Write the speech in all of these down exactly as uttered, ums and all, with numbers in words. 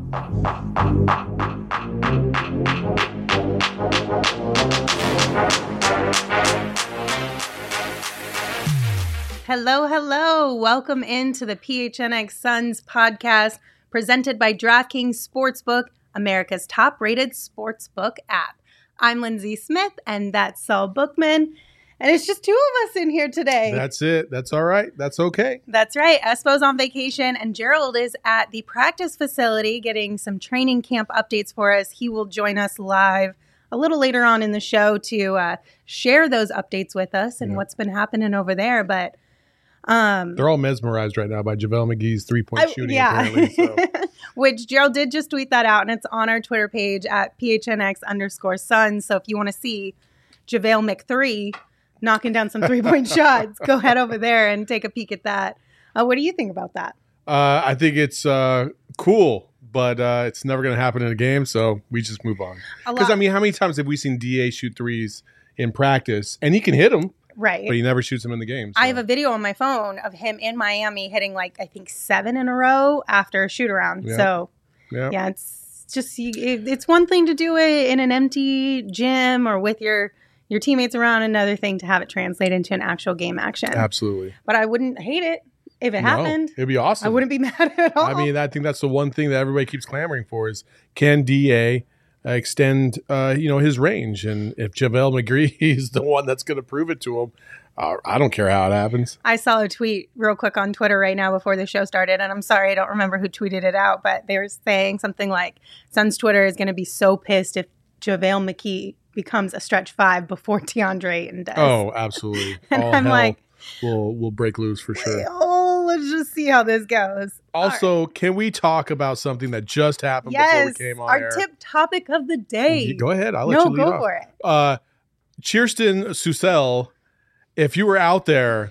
Hello, hello. Welcome into the P H N X Suns podcast presented by DraftKings Sportsbook, America's top-rated sportsbook app. I'm Lindsay Smith, and that's Saul Bookman. And it's just two of us in here today. That's it. That's all right. That's okay. That's right. Espo's on vacation, and Gerald is at the practice facility getting some training camp updates for us. He will join us live a little later on in the show to uh, share those updates with us and yeah. what's been happening over there. But Um, They're all mesmerized right now by JaVale McGee's three-point I, shooting, yeah. apparently. So. Which Gerald did just tweet that out, and it's on our Twitter page at P H N X underscore Suns. So if you want to see JaVale McThree knocking down some three-point shots, go head over there and take a peek at that. Uh, what do you think about that? Uh, I think it's uh, cool, but uh, it's never going to happen in a game, so we just move on. Because, I mean, how many times have we seen D A shoot threes in practice? And he can hit them. Right. But he never shoots them in the game. So. I have a video on my phone of him in Miami hitting like, I think, seven in a row after a shoot around. Yep. So, yep. yeah, it's just, it's one thing to do it in an empty gym or with your, your teammates around, another thing to have it translate into an actual game action. Absolutely. But I wouldn't hate it if it no, happened. It'd be awesome. I wouldn't be mad at all. I mean, I think that's the one thing that everybody keeps clamoring for is can D A Uh, extend, uh, you know, his range. And if JaVale McGee is the one that's going to prove it to him, uh, I don't care how it happens. I saw a tweet real quick on Twitter right now before the show started, and I'm sorry, I don't remember who tweeted it out, but they were saying something like, Suns Twitter is going to be so pissed if JaVale McGee becomes a stretch five before DeAndre Ayton does. Oh, absolutely. And All I'm hell like, will will break loose for sure. Oh, let's just see how this goes. Also, right. Can we talk about something that just happened yes, before we came on our air? tip topic of the day. Go ahead. I'll let no, you lead go off. for it. Uh, Kirsten Susel, if you were out there,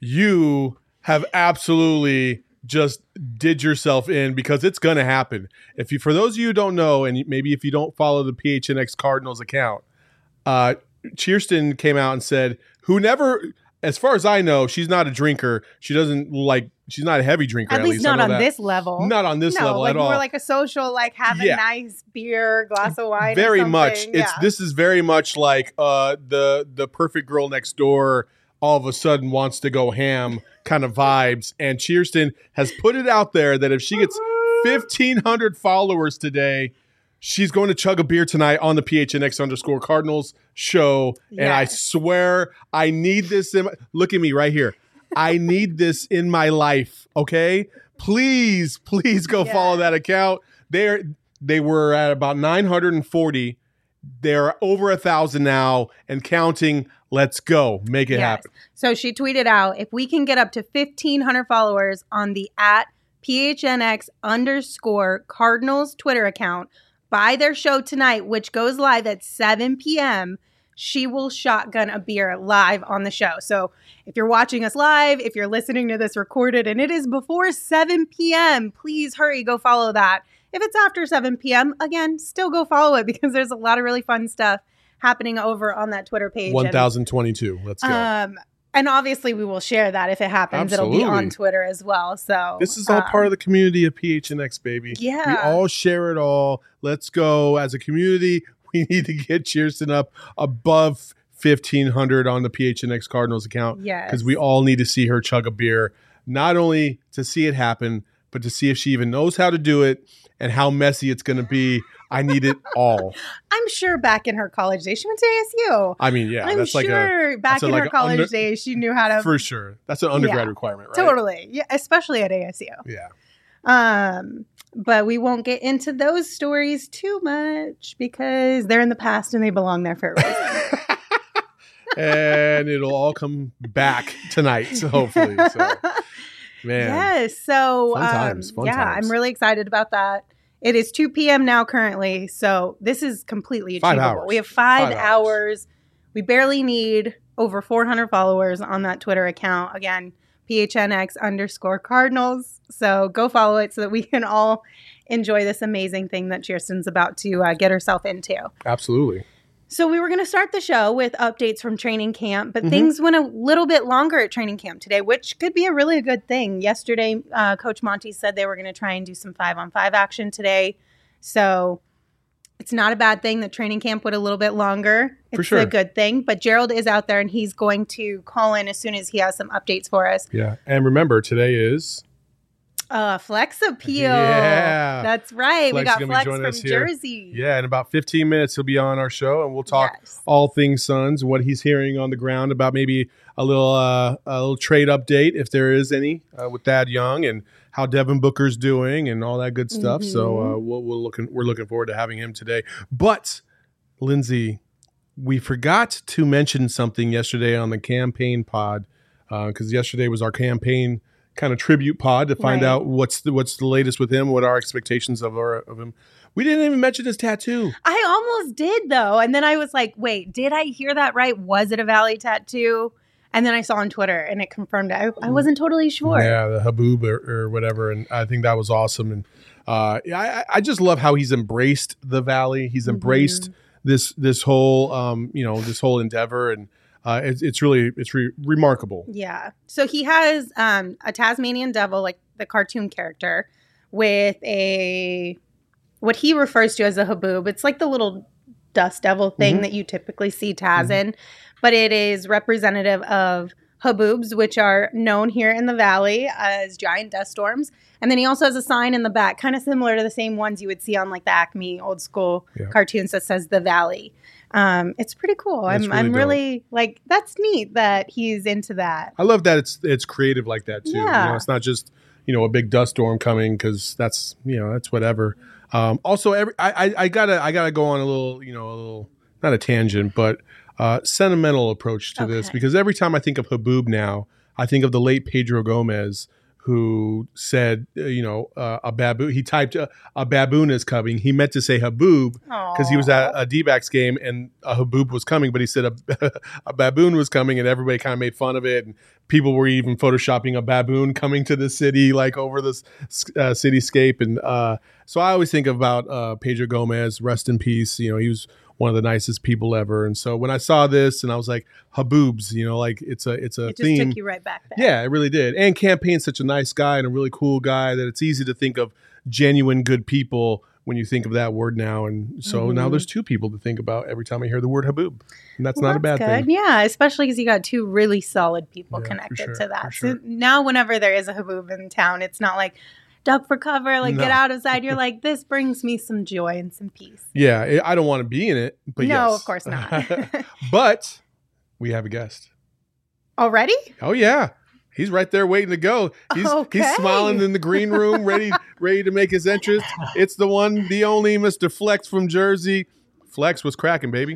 you have absolutely just did yourself in because it's going to happen. If you, for those of you who don't know, and maybe if you don't follow the P H N X Cardinals account, uh, Kirsten came out and said, who never, as far as I know, she's not a drinker. She doesn't like, she's not a heavy drinker. At, at least, least not on that. this level. Not on this no, level like at all. More like a social, like have a Yeah. nice beer, glass of wine. Very or much. something. It's yeah. This is very much like uh, the the perfect girl next door all of a sudden wants to go ham kind of vibes. And Kirsten has put it out there that if she gets fifteen hundred followers today, she's going to chug a beer tonight on the P H N X underscore Cardinals show. Yes. And I swear I need this. In my, look at me right here. I need this in my life. Okay. Please, please go yes. follow that account. They're, they were at about nine hundred forty. They're over a thousand now and counting. Let's go. Make it yes. happen. So she tweeted out, if we can get up to fifteen hundred followers on the at P H N X underscore Cardinals Twitter account by their show tonight, which goes live at seven p.m., she will shotgun a beer live on the show. So if you're watching us live, if you're listening to this recorded and it is before seven p.m., please hurry, go follow that. If it's after seven p.m., again, still go follow it because there's a lot of really fun stuff happening over on that Twitter page. one thousand twenty-two. Let's go. Um, and obviously we will share that if it happens. Absolutely. It'll be on Twitter as well. So this is all um, part of the community of P H N X, baby. Yeah. We all share it all. Let's go. As a community, we need to get Kirsten up above fifteen hundred on the P H N X Cardinals account. Yes. Because we all need to see her chug a beer, not only to see it happen, but to see if she even knows how to do it and how messy it's going to be. I need it all. I'm sure back in her college days, she went to A S U. I mean, yeah, I'm that's like sure a back that's a, in like her a college under, days, she knew how to. For sure. That's an undergrad Yeah, requirement, right? Totally. Yeah, especially at A S U. Yeah. Um, but we won't get into those stories too much because they're in the past and they belong there for a reason. And it'll all come back tonight, so hopefully. So, man. Yes. So, Fun times, um, fun yeah, times. I'm really excited about that. It is two p.m. now currently, so this is completely Five achievable. hours. We have five, Five hours. hours. We barely need over four hundred followers on that Twitter account. Again, P H N X underscore Cardinals. So go follow it so that we can all enjoy this amazing thing that Kirsten's about to uh, get herself into. Absolutely. So we were going to start the show with updates from training camp, but Mhm. things went a little bit longer at training camp today, which could be a really good thing. Yesterday, uh, Coach Monty said they were going to try and do some five-on-five action today. So it's not a bad thing that training camp went a little bit longer. It's For sure. a good thing. But Gerald is out there, and he's going to call in as soon as he has some updates for us. Yeah. And remember, today is Uh, Flex Appeal. Yeah. That's right. Flex we is got gonna be Flex joining from us here. Jersey. Yeah, in about fifteen minutes, he'll be on our show, and we'll talk Yes. all things Suns, what he's hearing on the ground about maybe a little uh, a little trade update, if there is any, uh, with Thad Young, and how Devin Booker's doing, and all that good stuff. So uh, we'll, we'll looking, we're looking forward to having him today. But, Lindsay, we forgot to mention something yesterday on the campaign pod, because yesterday was our campaign kind of tribute pod to find Right. out what's the, what's the latest with him, what our expectations of our, of him. We didn't even mention his tattoo. I almost did, though. And then I was like, wait, did I hear that right? Was it a Valley tattoo? And then I saw on Twitter, and it confirmed it. I, I wasn't totally sure. Yeah, the Haboob or, or whatever, and I think that was awesome. And uh, I, I just love how he's embraced the Valley. He's embraced this this whole um, you know this whole endeavor, and uh, it's, it's really it's re- remarkable. Yeah. So he has um, a Tasmanian devil, like the cartoon character, with a what he refers to as a haboob. It's like the little dust devil thing Mhm. that you typically see Taz in, but it is representative of haboobs, which are known here in the Valley as giant dust storms. And then he also has a sign in the back, kind of similar to the same ones you would see on like the Acme old school Yeah. cartoons that says the Valley. Um, it's pretty cool. That's I'm really I'm dope. really like that's neat that he's into that. I love that it's it's creative like that too. You Yeah. know, it's not just you know a big dust storm coming because that's you know that's whatever. Um, also, every I, I I gotta I gotta go on a little you know a little not a tangent but uh, sentimental approach to this Okay. because every time I think of Haboob now, I think of the late Pedro Gomez who said uh, you know uh, a baboon. He typed uh, a baboon is coming. He meant to say Haboob because he was at a D-backs game and a Haboob was coming, but he said a, a baboon was coming, and everybody kind of made fun of it. And people were even photoshopping a baboon coming to the city, like over this uh, cityscape. And uh, so I always think about uh, Pedro Gomez, rest in peace. You know, he was one of the nicest people ever. And so when I saw this, and I was like, Haboobs, you know, like it's a it's a It just theme. took you right back there. Yeah, it really did. And Campaign's such a nice guy and a really cool guy that it's easy to think of genuine good people when you think of that word now. And so now there's two people to think about every time I hear the word Haboob. And that's Well, not a bad good. thing. Yeah, especially because you got two really solid people Yeah, for connected sure, to for that. sure. So now whenever there is a Haboob in town, it's not like duck for cover, like No. get out of sight. You're like, this brings me some joy and some peace. Yeah, I I don't want to be in it, but no, yes. of course not. But we have a guest. Already? Oh yeah. He's right there waiting to go. He's Okay. he's smiling in the green room, ready ready to make his entrance. It's the one, the only Mister Flex from Jersey. Flex, what's cracking, baby?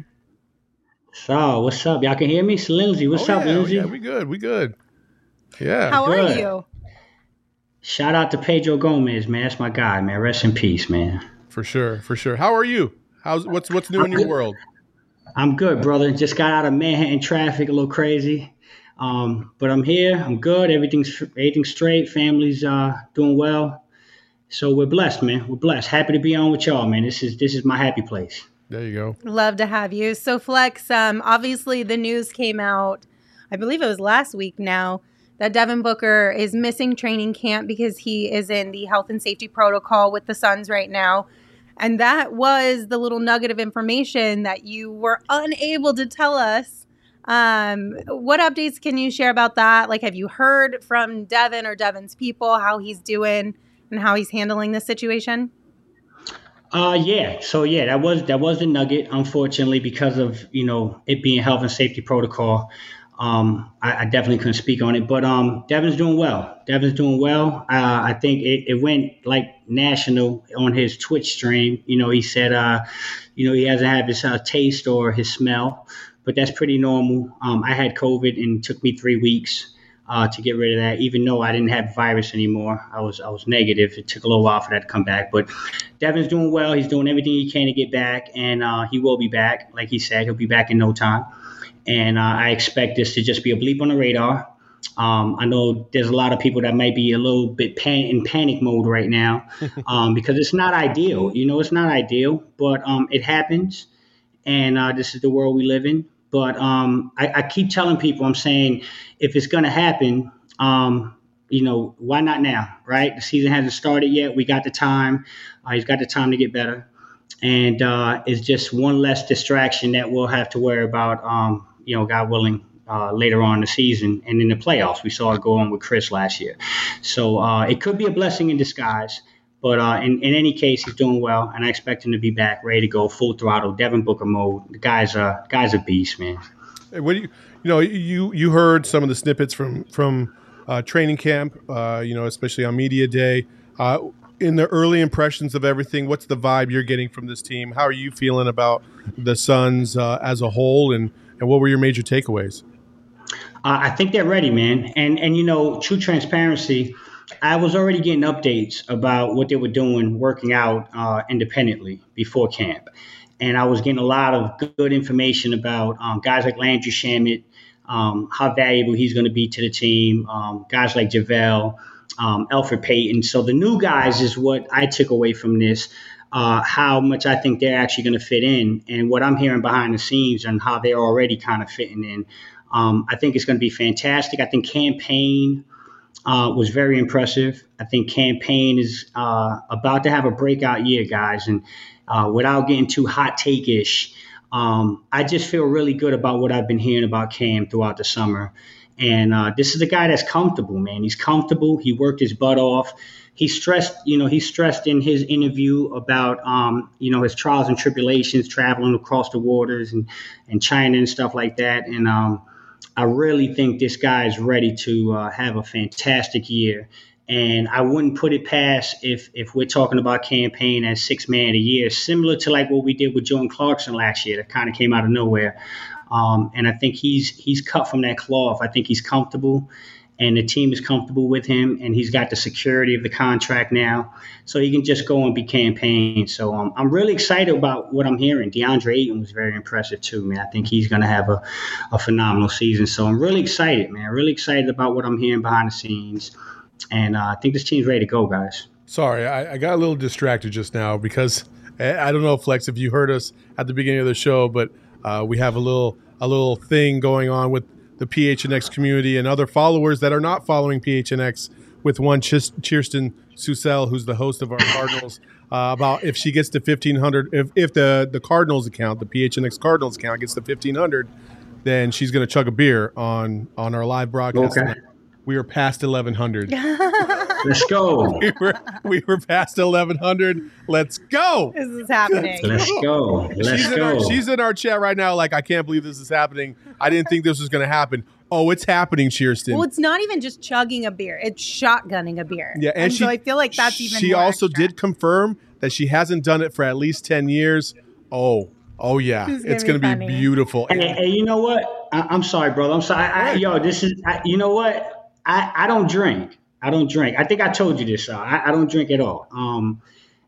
So, what's up? Y'all can hear me? It's Lindsay. What's Oh, up, yeah, Lindsay? Yeah, we good. We good. Yeah. How are good. you? Shout out to Pedro Gomez, man. That's my guy, man. Rest in peace, man. For sure, for sure. How are you? How's what's what's new in your world? I'm good, brother. Just got out of Manhattan traffic, a little crazy. Um, but I'm here. I'm good. Everything's everything's straight. Family's uh, doing well. So we're blessed, man. We're blessed. Happy to be on with y'all, man. This is this is my happy place. There you go. Love to have you. So Flex, um, obviously the news came out, I believe it was last week now, that Devin Booker is missing training camp because he is in the health and safety protocol with the Suns right now. And that was the little nugget of information that you were unable to tell us. Um, what updates can you share about that? Like, have you heard from Devin or Devin's people, how he's doing and how he's handling this situation? Uh, yeah. So yeah, that was that was the nugget. Unfortunately, because of you know it being health and safety protocol, um, I, I definitely couldn't speak on it. But um, Devin's doing well. Devin's doing well. Uh, I think it, it went like national on his Twitch stream. You know, he said, uh, you know, he hasn't had his uh, taste or his smell, but that's pretty normal. Um, I had COVID and it took me three weeks. Uh, to get rid of that, even though I didn't have virus anymore, I was I was negative. It took a little while for that to come back, but Devin's doing well. He's doing everything he can to get back, and uh, he will be back. Like he said, he'll be back in no time. And uh, I expect this to just be a bleep on the radar. Um, I know there's a lot of people that might be a little bit pan- in panic mode right now um, because it's not ideal. You know, it's not ideal, but um, it happens. and uh, this is the world we live in. But um, I, I keep telling people, I'm saying, if it's going to happen, um, you know, why not now, right? The season hasn't started yet. We got the time. Uh, he's got the time to get better. And uh, it's just one less distraction that we'll have to worry about, um, you know, God willing, uh, later on in the season and in the playoffs. We saw it go on with Chris last year. So uh, it could be a blessing in disguise. But uh, in, in any case, he's doing well, and I expect him to be back, ready to go, full throttle, Devin Booker mode. The guy's a, guy's a beast, man. Hey, what do you, you know, you, you heard some of the snippets from, from uh, training camp, uh, you know, especially on media day. Uh, in the early impressions of everything, what's the vibe you're getting from this team? How are you feeling about the Suns uh, as a whole, and, and what were your major takeaways? Uh, I think they're ready, man. And, and, you know, true transparency, I was already getting updates about what they were doing, working out uh, independently before camp. And I was getting a lot of good information about um, guys like Landry Shamet, um, how valuable he's going to be to the team, um, guys like JaVale, um, Elfrid Payton. So the new guys is what I took away from this, uh, how much I think they're actually going to fit in, and what I'm hearing behind the scenes and how they're already kind of fitting in. Um, I think it's going to be fantastic. I think Cam Payne Uh, was very impressive. I think Cam Payne is uh, about to have a breakout year, guys. And uh, without getting too hot take-ish, um, I just feel really good about what I've been hearing about Cam throughout the summer. And uh, this is a guy that's comfortable, man. He's comfortable. He worked his butt off. He stressed, you know, he stressed in his interview about, um, you know, his trials and tribulations, traveling across the waters and, and China and stuff like that. And, um, I really think this guy is ready to uh, have a fantastic year. And I wouldn't put it past if if we're talking about Cam Payne as six man of the year, similar to like what we did with Jordan Clarkson last year, that kind of came out of nowhere. Um, and I think he's he's cut from that cloth. I think he's comfortable, and the team is comfortable with him, and he's got the security of the contract now, so he can just go and be Cam Payne. So um, I'm really excited about what I'm hearing. DeAndre Ayton was very impressive too, man. I think he's going to have a, a phenomenal season. So I'm really excited, man. Really excited about what I'm hearing behind the scenes, and uh, I think this team's ready to go, guys. Sorry, I, I got a little distracted just now because I don't know, Flex, if you heard us at the beginning of the show, but uh, we have a little a little thing going on with the P H N X community and other followers that are not following P H N X, with one Ch- Kirsten Susel, who's the host of our Cardinals, uh, about if she gets to fifteen hundred, if, if the, the Cardinals account, the P H N X Cardinals account gets to fifteen hundred, then she's going to chug a beer on, on our live broadcast. Okay. We are past eleven hundred. Let's go. we, were, we were past eleven hundred. Let's go. This is happening. Let's go. Let's she's, in go. our, she's in our chat right now like, I can't believe this is happening. I didn't think this was going to happen. Oh, it's happening, Kirsten. Well, it's not even just chugging a beer. It's shotgunning a beer. Yeah, and, and she, so I feel like that's even She more also extra. did confirm that she hasn't done it for at least ten years. Oh, oh yeah. This is It's gonna going be to be funny. beautiful. And, and you know what? I, I'm sorry, brother. I'm sorry. I, I, yo, this is, I, you know what? I, I don't drink. I don't drink. I think I told you this. Uh, I, I don't drink at all. Um,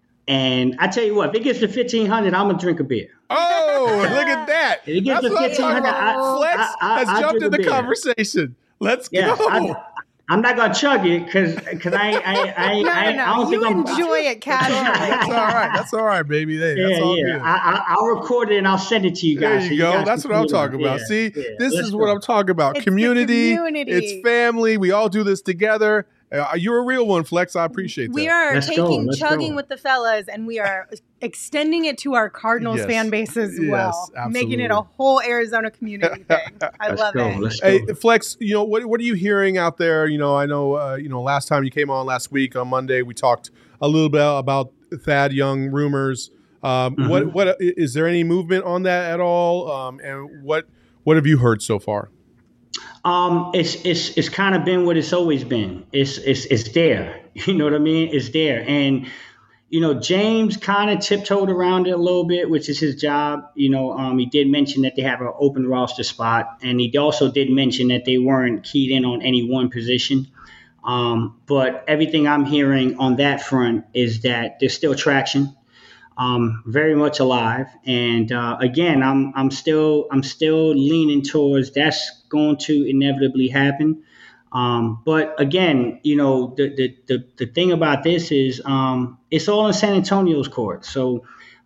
and I tell you what, if it gets to fifteen hundred, I'm going to drink a beer. Oh, look at that. If it gets That's to what I'm fifteen talking hundred, about. I, Flex I, I, has I jumped drink in a the beer. conversation. Let's Yeah, go. I, I'm not going to chug it because because I, I, I, No, I, no, I don't no. think You I'm. enjoy it casually. That's all right. That's all right, baby. Hey, that's Yeah, all yeah. good. I, I, I'll record it and I'll send it to you There guys. you so go. guys That's can what I'm feel it. talking about. Yeah, See, yeah. this Let's is go. what I'm talking about. It's the community, community. it's family. We all do this together. Uh, you're a real one, Flex. I appreciate that. We are Let's go, taking let's chugging go. with the fellas, and we are extending it to our Cardinals Yes. fan base as Yes, well, making it a absolutely. whole Arizona community thing. I Let's love go. it. Let's go. Hey, Flex, you know, what what are you hearing out there? You know, I know, uh, you know, last time you came on last week on Monday, we talked a little bit about Thad Young rumors. Um, Mhm. What what is there any movement on that at all? Um, and what what have you heard so far? Um, it's it's it's kind of been what it's always been. It's it's it's there. You know what I mean? It's there. And you know, James kind of tiptoed around it a little bit, which is his job. You know, um, he did mention that they have an open roster spot, and he also did mention that they weren't keyed in on any one position. Um, but everything I'm hearing on that front is that there's still traction. Um, very much alive, and uh, again, I'm I'm still I'm still leaning towards that's going to inevitably happen. Um, but again, you know, the the the, the thing about this is um, it's all in San Antonio's court. So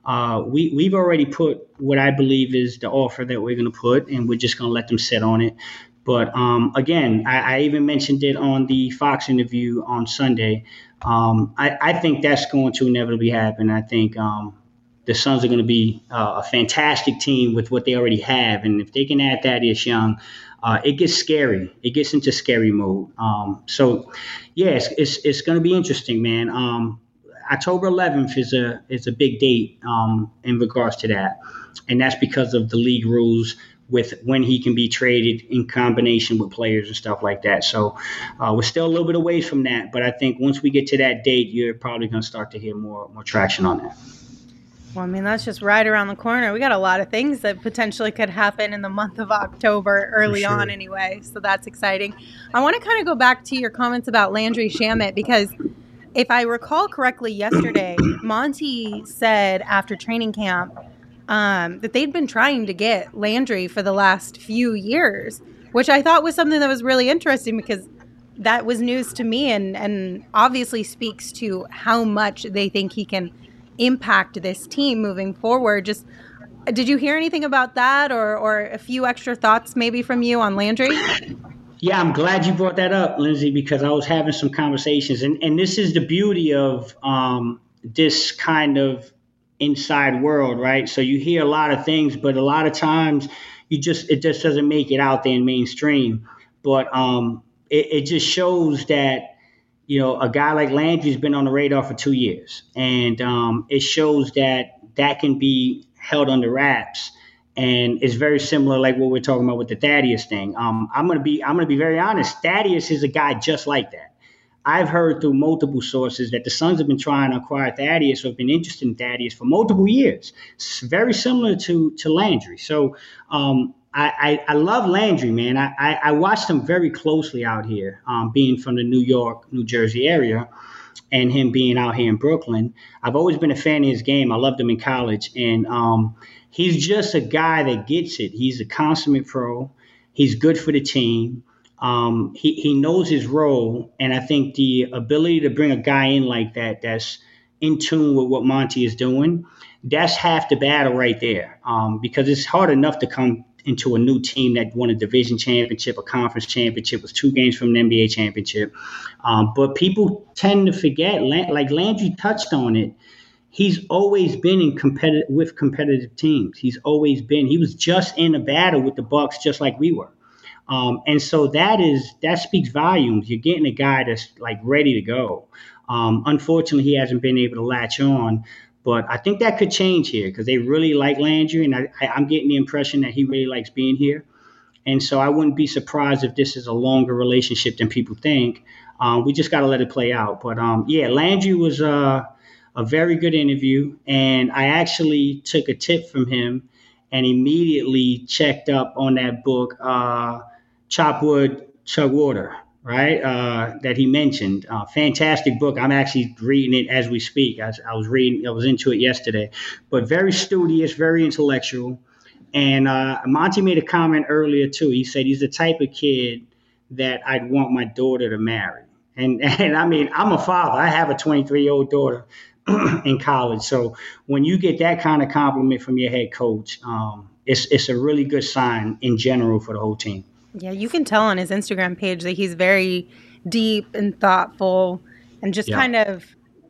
Uh, we we've already put what I believe is the offer that we're going to put, and we're just going to let them sit on it. But um, again, I, I even mentioned it on the Fox interview on Sunday. Um, I, I think that's going to inevitably happen. I think um, the Suns are going to be uh, a fantastic team with what they already have, and if they can add Thaddeus Young, uh, it gets scary. It gets into scary mode. Um, so, yeah, it's it's, it's going to be interesting, man. Um, October eleventh is a is a big date um, in regards to that, and that's because of the league rules with when he can be traded in combination with players and stuff like that. So uh, we're still a little bit away from that, but I think once we get to that date, you're probably going to start to hear more more traction on that. Well, I mean, that's just right around the corner. We got a lot of things that potentially could happen in the month of October, early sure. on anyway. So that's exciting. I want to kind of go back to your comments about Landry Shamet, because if I recall correctly, yesterday, Monty said after training camp um, that they'd been trying to get Landry for the last few years, which I thought was something that was really interesting, because that was news to me, and, and obviously speaks to how much they think he can impact this team moving forward. Just, did you hear anything about that, or, or a few extra thoughts maybe from you on Landry? Yeah, I'm glad you brought that up, Lindsay, because I was having some conversations. And, and this is the beauty of um, this kind of inside world, right? So you hear a lot of things, but a lot of times you just it just doesn't make it out there in mainstream. But um, it, it just shows that, you know, a guy like Landry's been on the radar for two years. And um, it shows that that can be held under wraps. And it's very similar, like what we're talking about with the Thaddeus thing. Um, I'm gonna be, I'm gonna be very honest. Thaddeus is a guy just like that. I've heard through multiple sources that the Suns have been trying to acquire Thaddeus, or have been interested in Thaddeus for multiple years. It's very similar to to Landry. So um, I, I, I love Landry, man. I, I, I watched him very closely out here, um, being from the New York, New Jersey area, and him being out here in Brooklyn. I've always been a fan of his game. I loved him in college, and um, he's just a guy that gets it. He's a consummate pro. He's good for the team. Um, he, he knows his role. And I think the ability to bring a guy in like that, that's in tune with what Monty is doing, that's half the battle right there. Um, because it's hard enough to come into a new team that won a division championship, a conference championship, was two games from an N B A championship. Um, but people tend to forget, like Landry touched on it, he's always been in competitive with competitive teams. He's always been. He was just in a battle with the Bucks, just like we were. Um, and so that is that speaks volumes. You're getting a guy that's like ready to go. Um, unfortunately, he hasn't been able to latch on, but I think that could change here because they really like Landry, and I, I, I'm getting the impression that he really likes being here. And so I wouldn't be surprised if this is a longer relationship than people think. Um, we just got to let it play out. But um, yeah, Landry was uh, a very good interview, and I actually took a tip from him and immediately checked up on that book, uh, Chop Wood, Chug Water, right, uh, that he mentioned. Uh, fantastic book. I'm actually reading it as we speak. I, I was reading, I was into it yesterday. But very studious, very intellectual. And uh, Monty made a comment earlier, too. He said he's the type of kid that I'd want my daughter to marry. And, and I mean, I'm a father. I have a twenty-three-year-old daughter in college. So when you get that kind of compliment from your head coach, um, it's it's a really good sign in general for the whole team. Yeah, you can tell on his Instagram page that he's very deep and thoughtful and just yeah. kind of,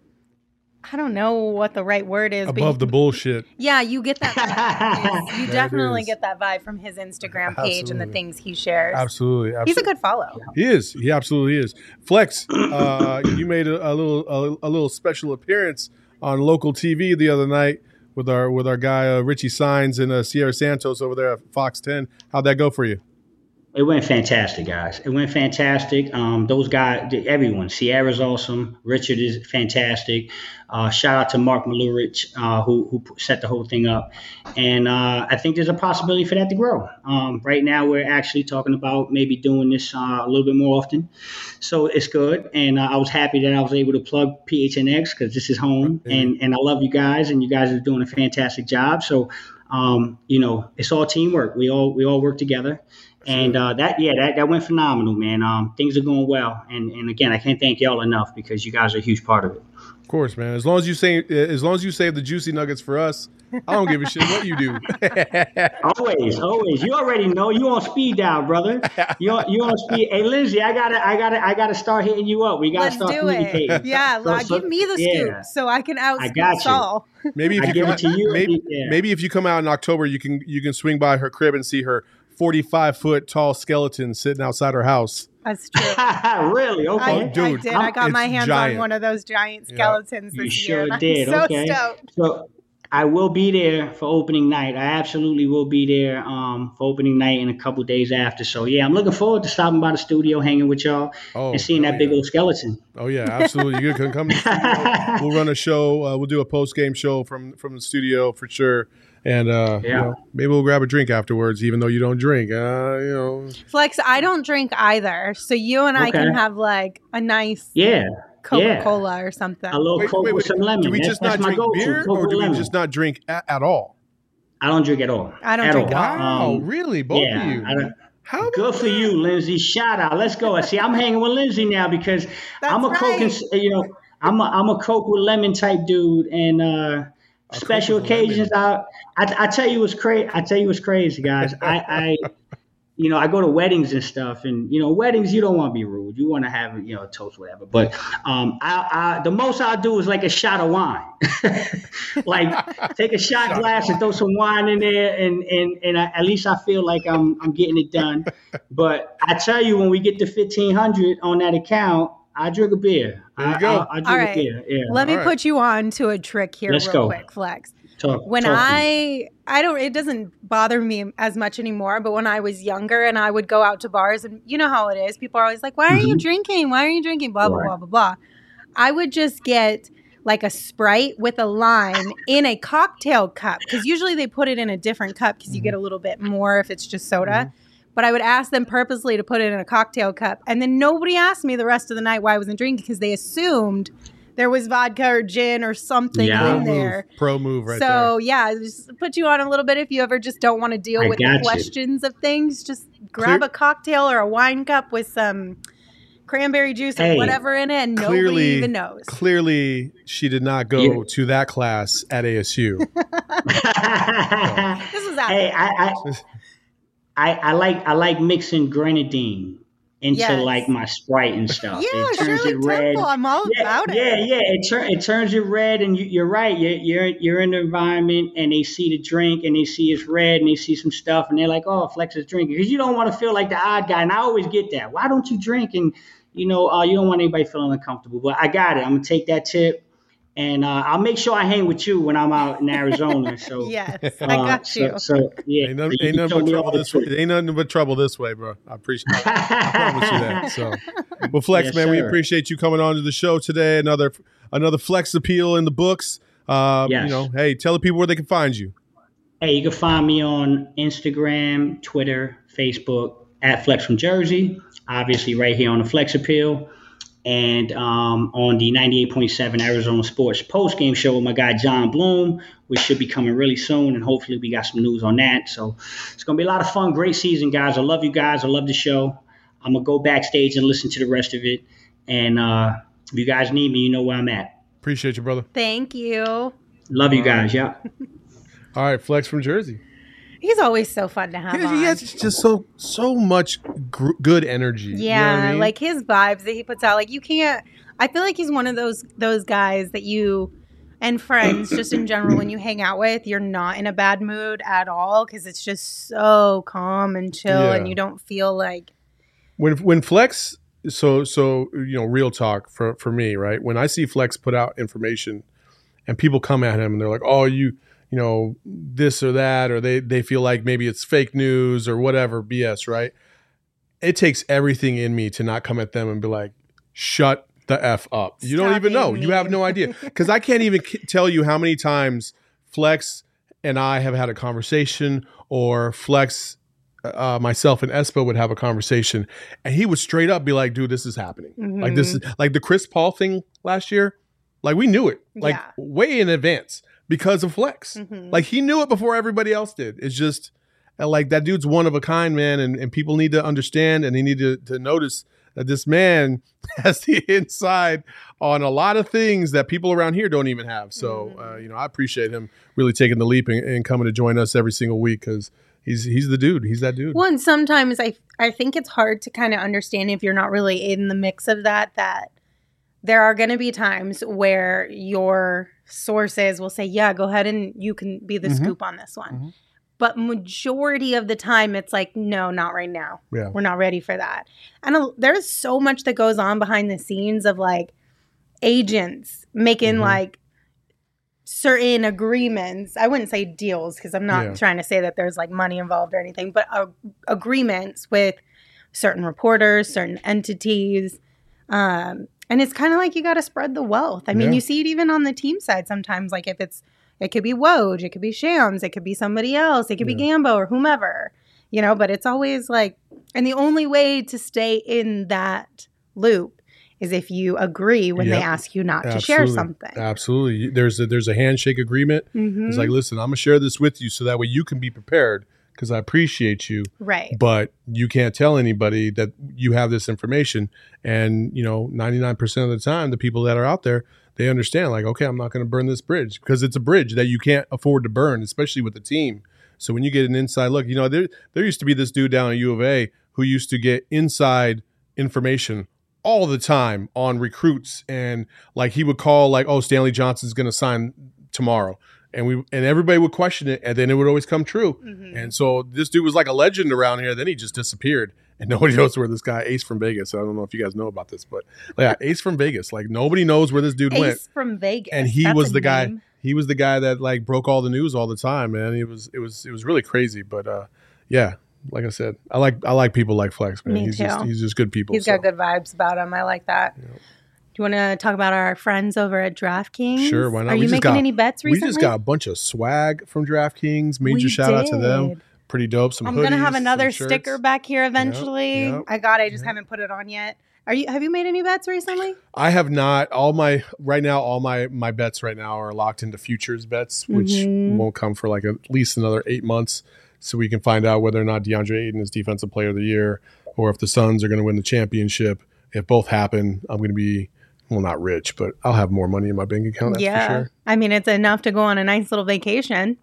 I don't know what the right word is. Above but the bullshit. Yeah, you get that vibe. You definitely get that vibe from his Instagram page absolutely. And the things he shares. Absolutely, absolutely. He's a good follow. He is. He absolutely is. Flex, uh, you made a, a little a, a little special appearance on local T V the other night with our with our guy uh, Richie Signs and uh, Sierra Santos over there at Fox ten. How'd that go for you? It went fantastic, guys. It went fantastic. Um, those guys, everyone. Sierra's awesome. Richard is fantastic. Uh, shout out to Mark Malurich, uh, who who set the whole thing up. And uh, I think there's a possibility for that to grow. Um, right now, we're actually talking about maybe doing this uh, a little bit more often. So it's good. And uh, I was happy that I was able to plug P H N X because this is home. And, and I love you guys, and you guys are doing a fantastic job. So, um, you know, it's all teamwork. We all we all work together. And uh, that, yeah, that, that went phenomenal, man. Um, things are going well. And, and again, I can't thank y'all enough because you guys are a huge part of it. course, man. As long as you say, as long as you save the juicy nuggets for us, I don't give a shit what you do. Always, always. You already know. You on speed dial, brother. You on, you on speed. Hey, Lindsay, I gotta, I gotta, I gotta start hitting you up. We gotta Let's start do communicating. it. Yeah, So- like, so- give me the yeah. scoop so I can out I got you. Saul. Maybe if I you give come it to you. maybe, Yeah. maybe if you come out in October, you can you can swing by her crib and see her forty-five foot tall skeleton sitting outside her house. That's true. Really? I, Okay. Oh, dude, I did. I got it's my hands giant. on one of those giant Yeah. skeletons You this sure year. and did. I'm so Okay. stoked. So I will be there for opening night. I absolutely will be there um, for opening night and a couple days after. So yeah, I'm looking forward to stopping by the studio, hanging with y'all, Oh, and seeing hell that big yeah. old skeleton. Oh yeah, absolutely. You can come to the studio. We'll run a show. Uh, we'll do a post game show from from the studio for sure. And uh, you Yeah. know, maybe we'll grab a drink afterwards, even though you don't drink. Uh, you know, Flex, I don't drink either. So you and I Okay. can have like a nice Yeah, Coca-Cola or something. a little wait, Coke wait, with wait. some lemon. Do we that's, just that's not my drink go-to. beer, Coke or with do we lemon. just not drink at, at all? I don't drink at all. I don't At drink all. at all. Wow, Um, really? Both yeah, of you? I don't- How about Good for that? you, Lindsay. Shout out. Let's go. See, I'm hanging with Lindsay now because That's I'm a Coke and right. you know I'm a I'm a Coke with lemon type dude, and uh, A special Coke with lemon. occasions. I, I I tell you what's crazy. I tell you what's crazy, guys. I I you know I go to weddings and stuff, and you know weddings you don't want to be rude. You want to have you know a toast, whatever. But um, I, I the most I'll do is like a shot of wine. Like take a shot Shot of glass and throw some wine in there, and and and I, at least I feel like I'm I'm getting it done. But I tell you, when we get to fifteen hundred on that account, I drink a beer. There you I, go. I, I drink All a right. beer. Yeah. Let me All right. put you on to a trick here Let's real go. quick, Flex. Talk, When talk to me. I I don't it doesn't bother me as much anymore, but when I was younger and I would go out to bars and you know how it is, people are always like, "Why are you Mhm. drinking? Why are you drinking?" blah blah Right. blah blah blah. I would just get like a Sprite with a lime in a cocktail cup because usually they put it in a different cup because you get a little bit more if it's just soda. But I would ask them purposely to put it in a cocktail cup, and then nobody asked me the rest of the night why I wasn't drinking because they assumed there was vodka or gin or something Yeah. Pro in there. move, pro move right so yeah, just put you on a little bit if you ever just don't want to deal I with the got you. questions of things. Just grab Clear- a cocktail or a wine cup with some cranberry juice or Hey, whatever in it, and nobody Clearly, even knows. there. Clearly, she did not go Yeah. to that class at A S U. This was after. Hey, I, I, I, I like I like mixing grenadine into Yes. like my Sprite and stuff. Yeah, it turns Shirley it red. Temple. I'm all Yeah, about it. yeah, yeah. It, tur- it turns it red, and you, you're right. You're, you're you're in the environment, and they see the drink, and they see it's red, and they see some stuff, and they're like, "Oh, Flex is drinking," because you don't want to feel like the odd guy. And I always get that. Why don't you drink? And you know, uh, you don't want anybody feeling uncomfortable. But I got it. I'm gonna take that tip, and uh, I'll make sure I hang with you when I'm out in Arizona. So Yes, uh, I got so, you. So yeah, Ain't, none, so you ain't can nothing show but me trouble all the this way. tricks. Ain't nothing but trouble this way, bro. I appreciate. I promise you that. So, well, Flex, Yes, man, we sir. appreciate you coming on to the show today. Another another Flex appeal in the books. Uh, Yes. You know, hey, tell the people where they can find you. Hey, you can find me on Instagram, Twitter, Facebook at Flex from Jersey. Obviously, right here on the Flex Appeal, and um, on the ninety-eight point seven Arizona Sports post game show with my guy John Bloom, which should be coming really soon, and hopefully we got some news on that. So it's gonna be a lot of fun. Great season, guys. I love you guys. I love the show. I'm gonna go backstage and listen to the rest of it. And uh, if you guys need me, you know where I'm at. Appreciate you, brother. Thank you. Love you guys. Yeah. All right, Flex from Jersey. He's always so fun to have He, on. he has just so so much gr- good energy. Yeah, you know what I mean? like his vibes that he puts out. Like you can't. I feel like he's one of those those guys that you and friends just in general when you hang out with, you're not in a bad mood at all because it's just so calm and chill, Yeah. and you don't feel like when when Flex. So so you know, real talk for for me, right? When I see Flex put out information, and people come at him and they're like, "Oh, you." you know, this or that, or they, they feel like maybe it's fake news or whatever B S, right? It takes everything in me to not come at them and be like, shut the F up. You don't Stop even know. being You have mean. no idea. Because I can't even k- tell you how many times Flex and I have had a conversation, or Flex, uh, myself and Espo would have a conversation, and he would straight up be like, dude, this is happening. Like this is like the Chris Paul thing last year. Like we knew it like Yeah. way in advance. Because of Flex. Mhm. Like he knew it before everybody else did. It's just uh, like that dude's one of a kind, man. And, and people need to understand, and they need to, to notice that this man has the inside on a lot of things that people around here don't even have. So, uh, you know, I appreciate him really taking the leap and, and coming to join us every single week because he's he's the dude. He's that dude. Well, and sometimes I I think it's hard to kind of understand if you're not really in the mix of that, that there are going to be times where your sources will say, yeah, go ahead and you can be the Mm-hmm. scoop on this one. Mm-hmm. But majority of the time, it's like, no, not right now. Yeah. We're not ready for that. And uh, there's so much that goes on behind the scenes of like agents making Mm-hmm. like certain agreements. I wouldn't say deals because I'm not Yeah. trying to say that there's like money involved or anything, but uh, agreements with certain reporters, certain entities. Um, and it's kind of like you got to spread the wealth. I mean, Yeah. you see it even on the team side sometimes. Like if it's, it could be Woj, it could be Shams, it could be somebody else, it could be Yeah. Gambo or whomever, you know, but it's always like, and the only way to stay in that loop is if you agree when they Yep. ask you not to Absolutely. share something. Absolutely. There's a, there's a handshake agreement. Mhm. It's like, listen, I'm going to share this with you so that way you can be prepared because I appreciate you. Right. But you can't tell anybody that you have this information. And, you know, ninety-nine percent of the time, the people that are out there, they understand like, okay, I'm not going to burn this bridge because it's a bridge that you can't afford to burn, especially with the team. So when you get an inside look, you know, there, there used to be this dude down at U of A who used to get inside information all the time on recruits. And like he would call like, oh, Stanley Johnson's going to sign tomorrow. And we and everybody would question it, and then it would always come true. Mhm. And so this dude was like a legend around here. Then he just disappeared, and nobody knows where this guy Ace from Vegas. I don't know if you guys know about this, but yeah, Ace from Vegas. Like nobody knows where this dude went. Ace from Vegas. And he That's was a the guy. name. He was the guy that like broke all the news all the time, man. It was it was it was really crazy. But uh, yeah, like I said, I like I like people like Flex, man. Me he's too. just he's just good people. He's so. got good vibes about him. I like that. Yep. Do you want to talk about our friends over at DraftKings? Sure, why not? Are We you just making got- any bets We recently? just got a bunch of swag from DraftKings. Major We shout out to them. did. Pretty dope. Some I'm hoodies, gonna have some another shirts. sticker back here eventually. yep, I got it. I just yep. haven't put it on yet. Are you? Have you made any bets recently? I have not. All my right now, all my my bets right now are locked into futures bets, which Mhm. won't come for like at least another eight months, so we can find out whether or not DeAndre Ayton is Defensive Player of the Year, or if the Suns are going to win the championship. If both happen, I'm going to be well, not rich, but I'll have more money in my bank account. That's yeah. for sure. I mean, it's enough to go on a nice little vacation.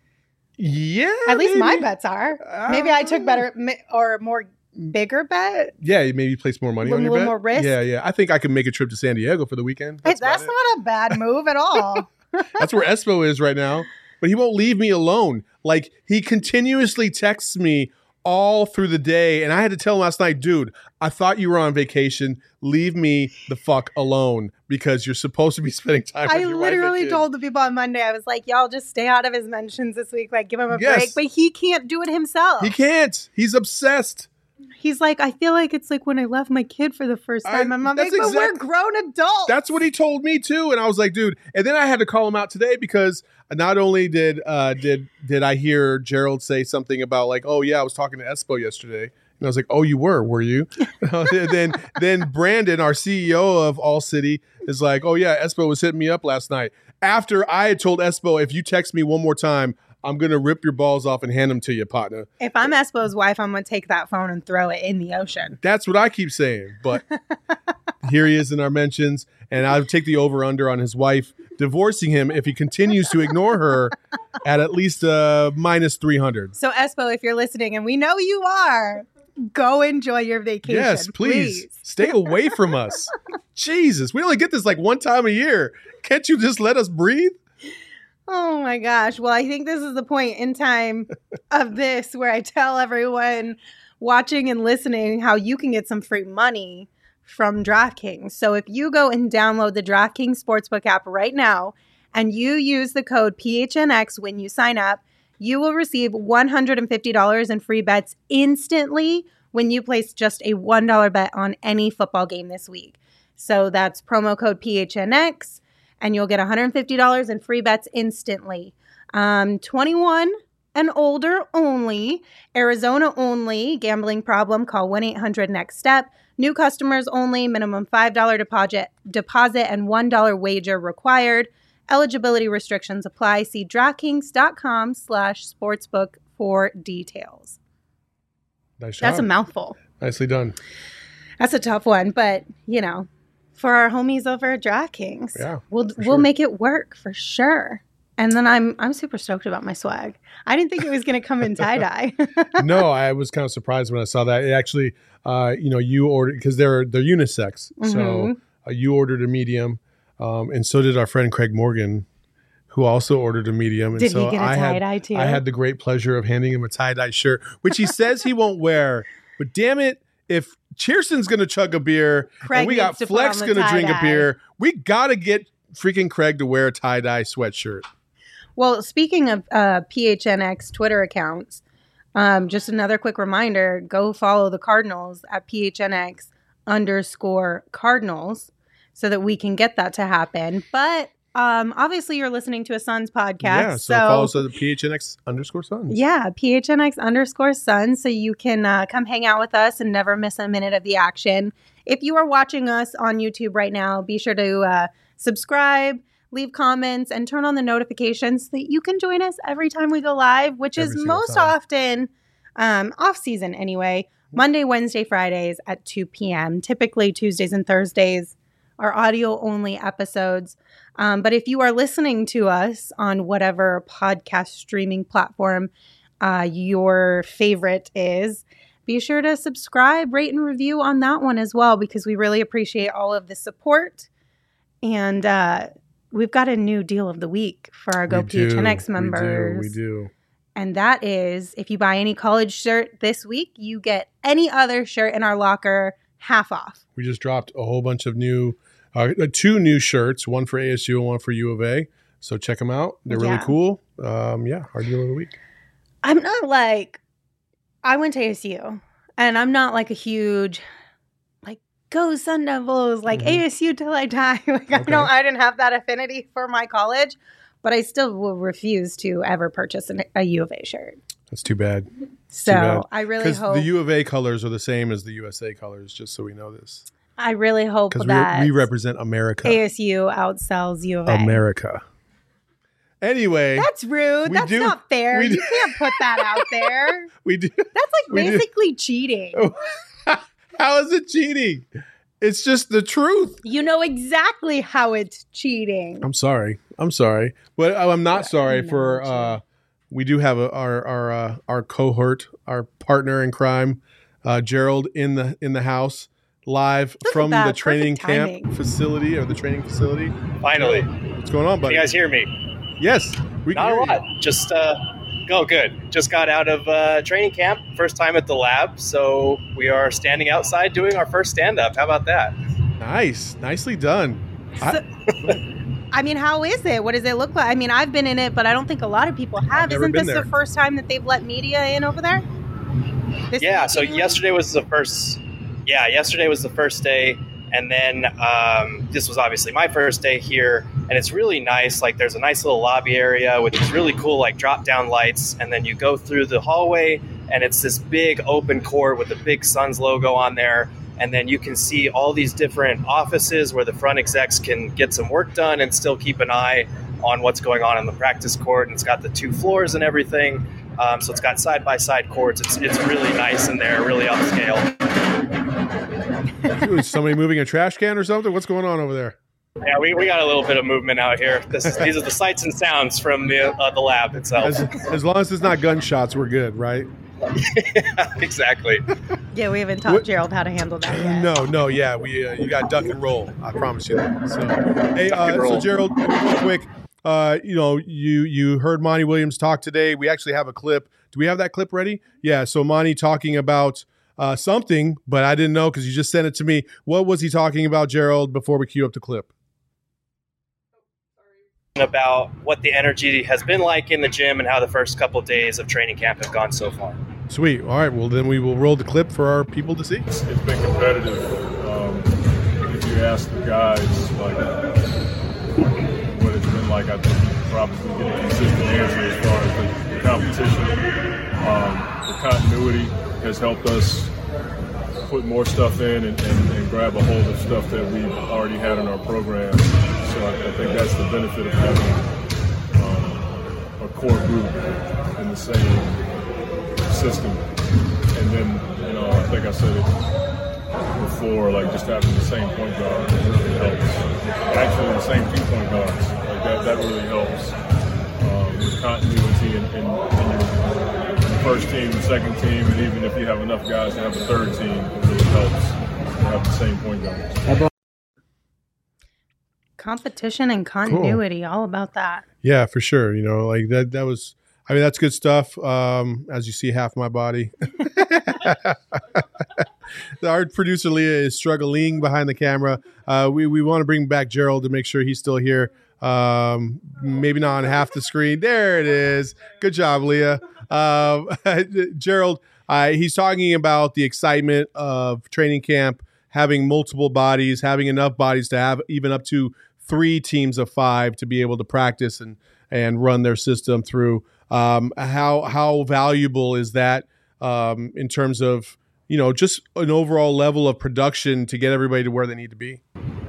Yeah, At least my maybe. bets are. Maybe I took better mi- or more bigger bet. Yeah, you maybe place more money A on your little bet. more risk? Yeah, yeah. I think I can make a trip to San Diego for the weekend. Hey, That's, about that's it. not a bad move at all. That's where Espo is right now. But he won't leave me alone. Like, he continuously texts me all through the day. And I had to tell him last night, dude, I thought you were on vacation. Leave me the fuck alone because you're supposed to be spending time with I your wife and literally kid. told the people on Monday, I was like, y'all just stay out of his mentions this week. Like, give him a Yes. break. But he can't do it himself. He can't. He's obsessed. He's like, I feel like it's like when I left my kid for the first I- time. I'm like, that's but we're exact- grown adults. That's what he told me too, and I was like, dude. And then I had to call him out today because not only did uh, did did I hear Gerald say something about like, oh yeah, I was talking to Espo yesterday, and I was like, oh, you were, were you? then then Brandon, our C E O of All City, is like, oh yeah, Espo was hitting me up last night after I had told Espo, if you text me one more time, I'm gonna rip your balls off and hand them to you, partner. If I'm Espo's wife, I'm going to take that phone and throw it in the ocean. That's what I keep saying. But here he is in our mentions, and I'll take the over under on his wife divorcing him if he continues to ignore her at at least uh, minus three hundred. So, Espo, if you're listening, and we know you are, go enjoy your vacation. Yes, please, stay away from us. Jesus, we only get this like one time a year. Can't you just let us breathe? Oh my gosh. Well, I think this is the point in time of this where I tell everyone watching and listening how you can get some free money from DraftKings. So if you go and download the DraftKings Sportsbook app right now and you use the code P H N X when you sign up, you will receive one hundred fifty dollars in free bets instantly when you place just a one dollar bet on any football game this week. So that's promo code P H N X. And you'll get one hundred fifty dollars in free bets instantly. Um, twenty-one and older only. Arizona only. Gambling problem, call one eight hundred next step. New customers only. Minimum five dollars deposit, deposit and one dollar wager required. Eligibility restrictions apply. See DraftKings.com slash sportsbook for details. Nice job. That's a mouthful. Nicely done. That's a tough one, but you know, for our homies over at DraftKings, yeah, we'll sure. we'll make it work for sure. And then I'm I'm super stoked about my swag. I didn't think it was going to come in tie dye. No, I was kind of surprised when I saw that. It actually, uh, you know, you ordered because they're they're unisex, mm-hmm. so uh, you ordered a medium, um, and so did our friend Craig Morgan, who also ordered a medium. And did so he get a I tie had, dye too? I had the great pleasure of handing him a tie dye shirt, which he says he won't wear. But damn it, if Cheerston's going to chug a beer Craig and we got Flex going to drink a beer, we got to get freaking Craig to wear a tie dye sweatshirt. Well, speaking of uh, P H N X Twitter accounts, um, just another quick reminder, go follow the Cardinals at P H N X underscore Cardinals so that we can get that to happen. But um, obviously you're listening to a Suns podcast. Yeah, so, so follow us at the P H N X underscore Suns. Yeah, P H N X underscore Suns so you can uh, come hang out with us and never miss a minute of the action. If you are watching us on YouTube right now, be sure to uh, subscribe, leave comments, and turn on the notifications so that you can join us every time we go live, which every is most time. often um, off season anyway, Monday, Wednesday, Fridays at two p.m. Typically Tuesdays and Thursdays are audio only episodes. Um, but if you are listening to us on whatever podcast streaming platform uh, your favorite is, be sure to subscribe, rate, and review on that one as well, because we really appreciate all of the support. And uh, we've got a new deal of the week for our Go P H N X members. We do, we do. And that is, if you buy any college shirt this week, you get any other shirt in our locker half off. We just dropped a whole bunch of new, uh, two new shirts, one for A S U and one for U of A. So check them out. They're really Yeah. cool. Um, yeah, our deal of the week. I'm not like, I went to A S U, and I'm not like a huge, like, go Sun Devils, like Mhm. A S U till I die. Like, I Okay. don't, I didn't have that affinity for my college, but I still will refuse to ever purchase an, a U of A shirt. That's too bad. So bad. I really Because hope, the U of A colors are the same as the U S A colors, just so we know this. I really hope Because that we, we represent America. A S U outsells U of A. America. Anyway. That's rude. We That's do- not fair. we You do- can't put that out there. we do. That's like We do. basically cheating. How is it cheating? It's just the truth. You know exactly how it's cheating. I'm sorry. I'm sorry. But I'm not sorry No, for, uh, we do have a, our, our, uh, our cohort, our partner in crime, uh, Gerald in the, in the house live Look at from that. the training Perfect camp timing. facility or the training facility. Finally. What's going on, Can buddy? you guys hear me? Yes. We can Not a hear you. lot. Just, uh, go good. Just got out of uh, training camp. First time at the lab. So we are standing outside doing our first stand-up. How about that? Nice. Nicely done. I, I mean, how is it? What does it look like? I mean, I've been in it, but I don't think a lot of people have. never Isn't been this there. the first time that they've let media in over there? This Yeah, week, so anyway? yesterday was the first yeah, yesterday was the first day, and then um, this was obviously my first day here, and it's really nice. Like, there's a nice little lobby area with these really cool, like, drop-down lights, and then you go through the hallway, and it's this big open court with the big Suns logo on there, and then you can see all these different offices where the front execs can get some work done and still keep an eye on what's going on in the practice court, and it's got the two floors and everything. Um, so it's got side-by-side courts. It's it's really nice in there, really upscale. Is somebody moving a trash can or something? What's going on over there? Yeah, we, we got a little bit of movement out here. This is, these are the sights and sounds from the uh, the lab itself. As, as long as it's not gunshots, we're good, right? Yeah, exactly. Yeah, we haven't taught What- Gerald how to handle that yet. No, no, yeah, we uh, you got duck and roll. I promise you that. So, hey, Duck uh, and so roll. Gerald, real quick, uh, you know, you you heard Monty Williams talk today. We actually have a clip. Do we have that clip ready? Yeah. So Monty talking about uh, something, but I didn't know because you just sent it to me. What was he talking about, Gerald? Before we cue up the clip. About what the energy has been like in the gym and how the first couple of days of training camp have gone so far. Sweet. All right. Well, then we will roll the clip for our people to see. It's been competitive. Um, if you ask the guys, like, what it's been like, I think you can probably get a consistent answer as far as the, the competition. Um, the continuity has helped us put more stuff in and, and, and grab a hold of stuff that we've already had in our program. So I, I think that's the benefit of having um, a core group in the same system. And then, you know, I think I said it before, like just having the same point guard really helps. Actually, the same two point guards, like that, that really helps um, with continuity in, in, in your first team, the second team, and even if you have enough guys to have a third team, it really helps to have the same point guards. Competition and continuity, cool. All about that. Yeah, for sure. You know, like that. That was. I mean, that's good stuff. Um, as you see, half my body. Our producer Leah is struggling behind the camera. Uh, we we want to bring back Gerald to make sure he's still here. Um, maybe not on half the screen. There it is. Good job, Leah. Um, Gerald, uh, he's talking about the excitement of training camp, having multiple bodies, having enough bodies to have even up to three teams of five to be able to practice and and run their system through. Um, how how valuable is that um, in terms of, you know, just an overall level of production to get everybody to where they need to be?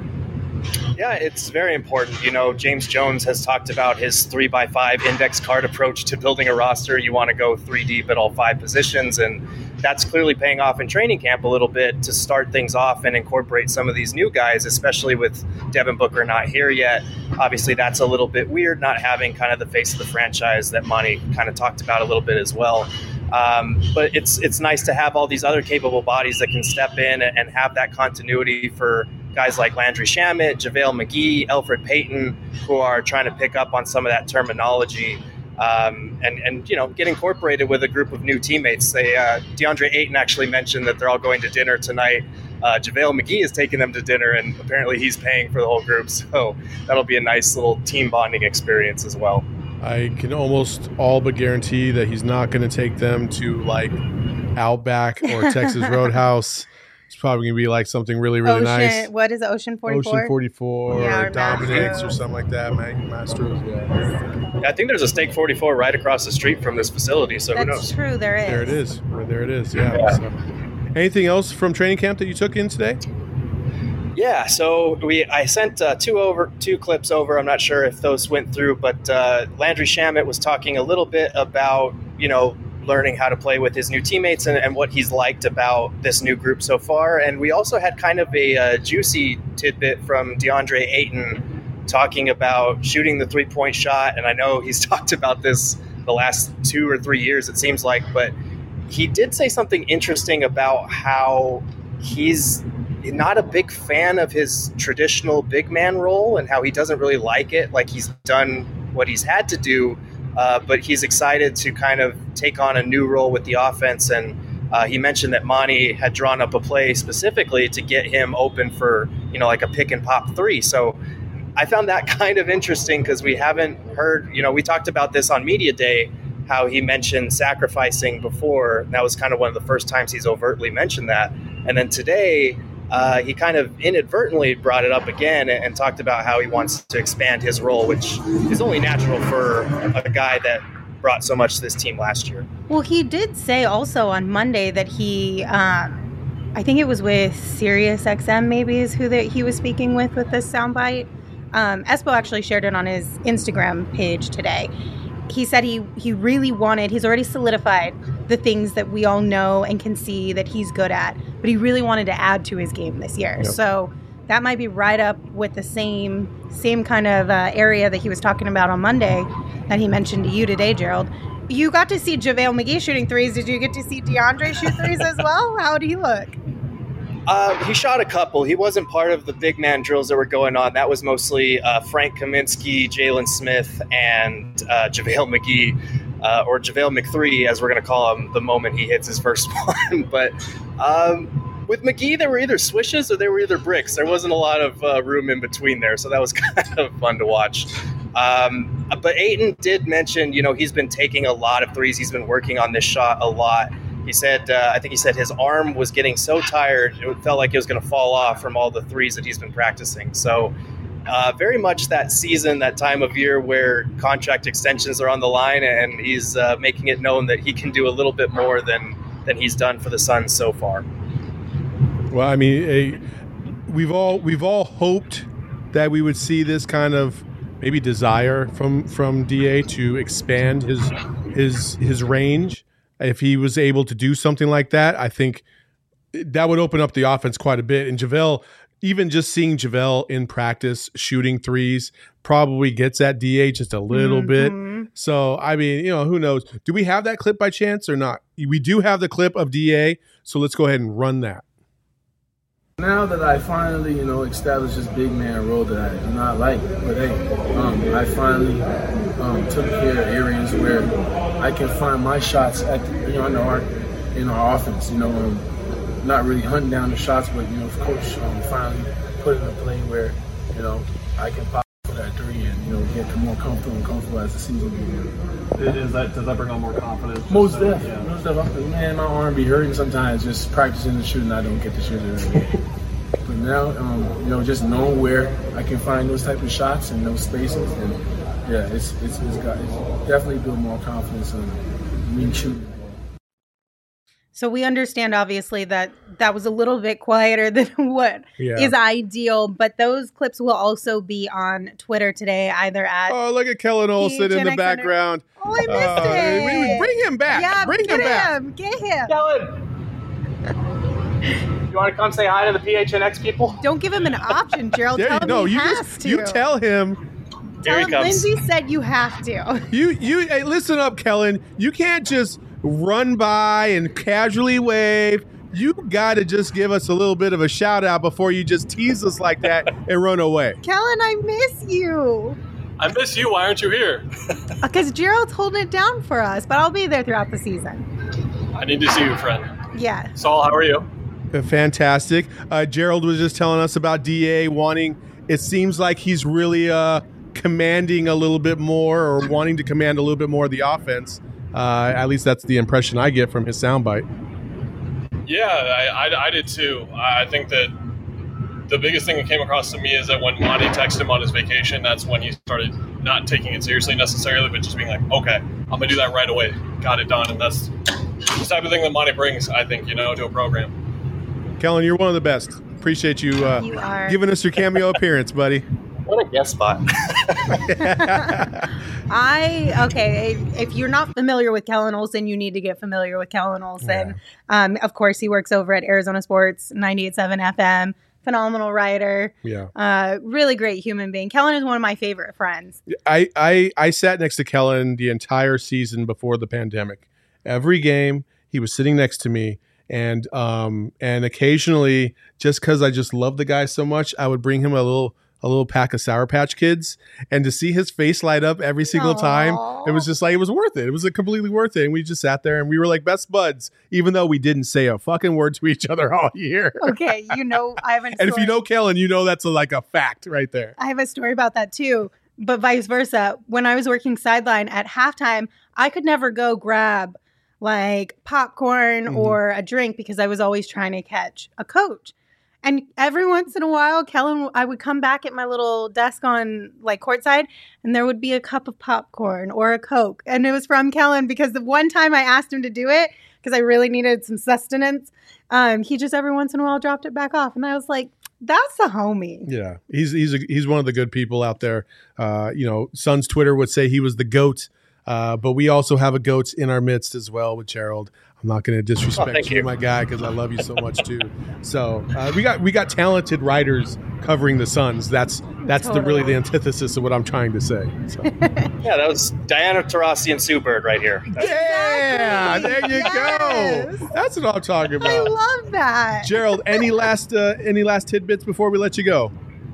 Yeah, it's very important. You know, James Jones has talked about his three by five index card approach to building a roster. You want to go three deep at all five positions, and that's clearly paying off in training camp a little bit to start things off and incorporate some of these new guys, especially with Devin Booker not here yet. Obviously, that's a little bit weird, not having kind of the face of the franchise that Monty kind of talked about a little bit as well. Um, but it's it's nice to have all these other capable bodies that can step in and have that continuity for guys like Landry Shamet, JaVale McGee, Elfrid Payton, who are trying to pick up on some of that terminology um, and, and, you know, get incorporated with a group of new teammates. They, uh, DeAndre Ayton actually mentioned that they're all going to dinner tonight. Uh, JaVale McGee is taking them to dinner, and apparently he's paying for the whole group. So that'll be a nice little team bonding experience as well. I can almost all but guarantee that he's not going to take them to, like, Outback or Texas Roadhouse. It's probably going to be like something really, really Ocean, nice. What is it, Ocean forty-four? Ocean forty-four yeah, or Dominic's or something like that. Masters, yeah. yeah. I think there's a Steak forty-four right across the street from this facility, so That's who knows? true, there is. There it is. There it is, yeah. yeah. So. Anything else from training camp that you took in today? Yeah, so we I sent uh, two over two clips over. I'm not sure if those went through, but uh, Landry Shamet was talking a little bit about, you know, learning how to play with his new teammates and, and what he's liked about this new group so far. And we also had kind of a uh, juicy tidbit from DeAndre Ayton talking about shooting the three-point shot. And I know he's talked about this the last two or three years, it seems like, but he did say something interesting about how he's not a big fan of his traditional big man role and how he doesn't really like it. Like, he's done what he's had to do, uh, but he's excited to kind of take on a new role with the offense. And uh, he mentioned that Monty had drawn up a play specifically to get him open for, you know, like a pick and pop three. So I found that kind of interesting because we haven't heard, you know, we talked about this on Media Day, how he mentioned sacrificing before. And that was kind of one of the first times he's overtly mentioned that. And then today, Uh, he kind of inadvertently brought it up again and, and talked about how he wants to expand his role, which is only natural for a guy that brought so much to this team last year. Well, he did say also on Monday that he, um, I think it was with Sirius X M maybe is who that he was speaking with with this soundbite. Um, Espo actually shared it on his Instagram page today. He said he, he really wanted, he's already solidified the things that we all know and can see that he's good at, but he really wanted to add to his game this year. Yep. So that might be right up with the same same kind of uh, area that he was talking about on Monday that he mentioned to you today, Gerald. You got to see JaVale McGee shooting threes. Did you get to see DeAndre shoot threes as well? How did he look? Uh, he shot a couple. He wasn't part of the big man drills that were going on. That was mostly uh, Frank Kaminsky, Jalen Smith, and uh, JaVale McGee, uh, or JaVale McThree, as we're going to call him the moment he hits his first one. But um, with McGee, there were either swishes or there were either bricks. There wasn't a lot of uh, room in between there, so that was kind of fun to watch. Um, but Ayton did mention, you know, he's been taking a lot of threes. He's been working on this shot a lot. He said, uh, I think he said his arm was getting so tired, it felt like it was going to fall off from all the threes that he's been practicing. So uh, very much that season, that time of year where contract extensions are on the line, and he's uh, making it known that he can do a little bit more than, than he's done for the Suns so far. Well, I mean, a, we've all we've all hoped that we would see this kind of maybe desire from, from D A to expand his his his range. If he was able to do something like that, I think that would open up the offense quite a bit. And JaVale, even just seeing JaVale in practice shooting threes probably gets at D A just a little Mm-hmm. bit. So, I mean, you know, who knows? Do we have that clip by chance or not? We do have the clip of D A, so let's go ahead and run that. Now that I finally, you know, established this big man role that I do not like, but hey, um, I finally um, took care of areas where I can find my shots at, the, you know, in our in our offense. You know, um, not really hunting down the shots, but you know, coach um, finally put in a play where, you know, I can pop for that three and you know get more comfortable and comfortable as the season goes on. Is that does that bring on more confidence? Most definitely. Yeah. Most definitely. Man, my arm be hurting sometimes just practicing the shooting. I don't get to shoot it. But now, um, you know, just knowing where I can find those type of shots and those spaces, and yeah, it's it's, it's got it's definitely built more confidence in me shooting. So we understand, obviously, that that was a little bit quieter than what Yeah. is ideal, but those clips will also be on Twitter today, either at Oh, look at Kellen Olson in the P H N X background. Oh, I missed Uh, it. we- we- bring him back. Yeah, Bring get him back. him. Get him. Kellen, you want to come say hi to the P H N X people? Don't give him an option, Gerald. There Tell you him no, he you has just to. you tell him. Tell Here he him comes. Lindsay said you have to. You you hey, listen up, Kellen. You can't just run by and casually wave. You got to just give us a little bit of a shout out before you just tease us like that and run away. Kellen, I miss you. I miss you. Why aren't you here? Because Gerald's holding it down for us, but I'll be there throughout the season. I need to see you, friend. Yeah. Saul, how are you? Uh, Fantastic. Uh, Gerald was just telling us about D A wanting. It seems like he's really uh, commanding a little bit more, or wanting to command a little bit more of the offense. Uh, at least that's the impression I get from his soundbite. Yeah, I, I, I did too. I think that the biggest thing that came across to me is that when Monty texted him on his vacation, that's when he started not taking it seriously necessarily, but just being like, okay, I'm going to do that right away. Got it done. And that's the type of thing that Monty brings, I think, you know, to a program. Kellen, you're one of the best. Appreciate you, uh, You are. giving us your cameo appearance, buddy. What a guest spot. I, okay, if, if you're not familiar with Kellen Olson, you need to get familiar with Kellen Olson. Yeah. Um, of course, he works over at Arizona Sports ninety-eight point seven F M. Phenomenal writer. Yeah. Uh, really great human being. Kellen is one of my favorite friends. I, I I sat next to Kellen the entire season before the pandemic. Every game, he was sitting next to me, and um and occasionally, just because I just love the guy so much, I would bring him a little a little pack of Sour Patch Kids, and to see his face light up every single time, it was just like it was worth it. It was completely worth it, and we just sat there and we were like best buds, even though we didn't say a fucking word to each other all year. Okay, you know, I have a And if you story- know Kellen, you know that's a, like a fact right there. I have a story about that too, but vice versa. When I was working sideline at halftime, I could never go grab like popcorn Mhm. or a drink because I was always trying to catch a coach. And every once in a while, Kellen, I would come back at my little desk on like courtside, and there would be a cup of popcorn or a Coke. And it was from Kellen because the one time I asked him to do it, because I really needed some sustenance, um, he just every once in a while dropped it back off. And I was like, that's a homie. Yeah, he's he's a, he's one of the good people out there. Uh, you know, Suns Twitter would say he was the GOAT, uh, but we also have a GOAT in our midst as well with Gerald. I'm not going to disrespect Oh, thank you, you. my guy, because I love you so much too. So uh, we got we got talented writers covering the Suns. That's that's the really the antithesis of what I'm trying to say. So. Yeah, that was Diana Taurasi and Sue Bird right here. Yeah, there you Yes. go. That's what I'm talking I about. love that. Gerald, any last uh, any last tidbits before we let you go?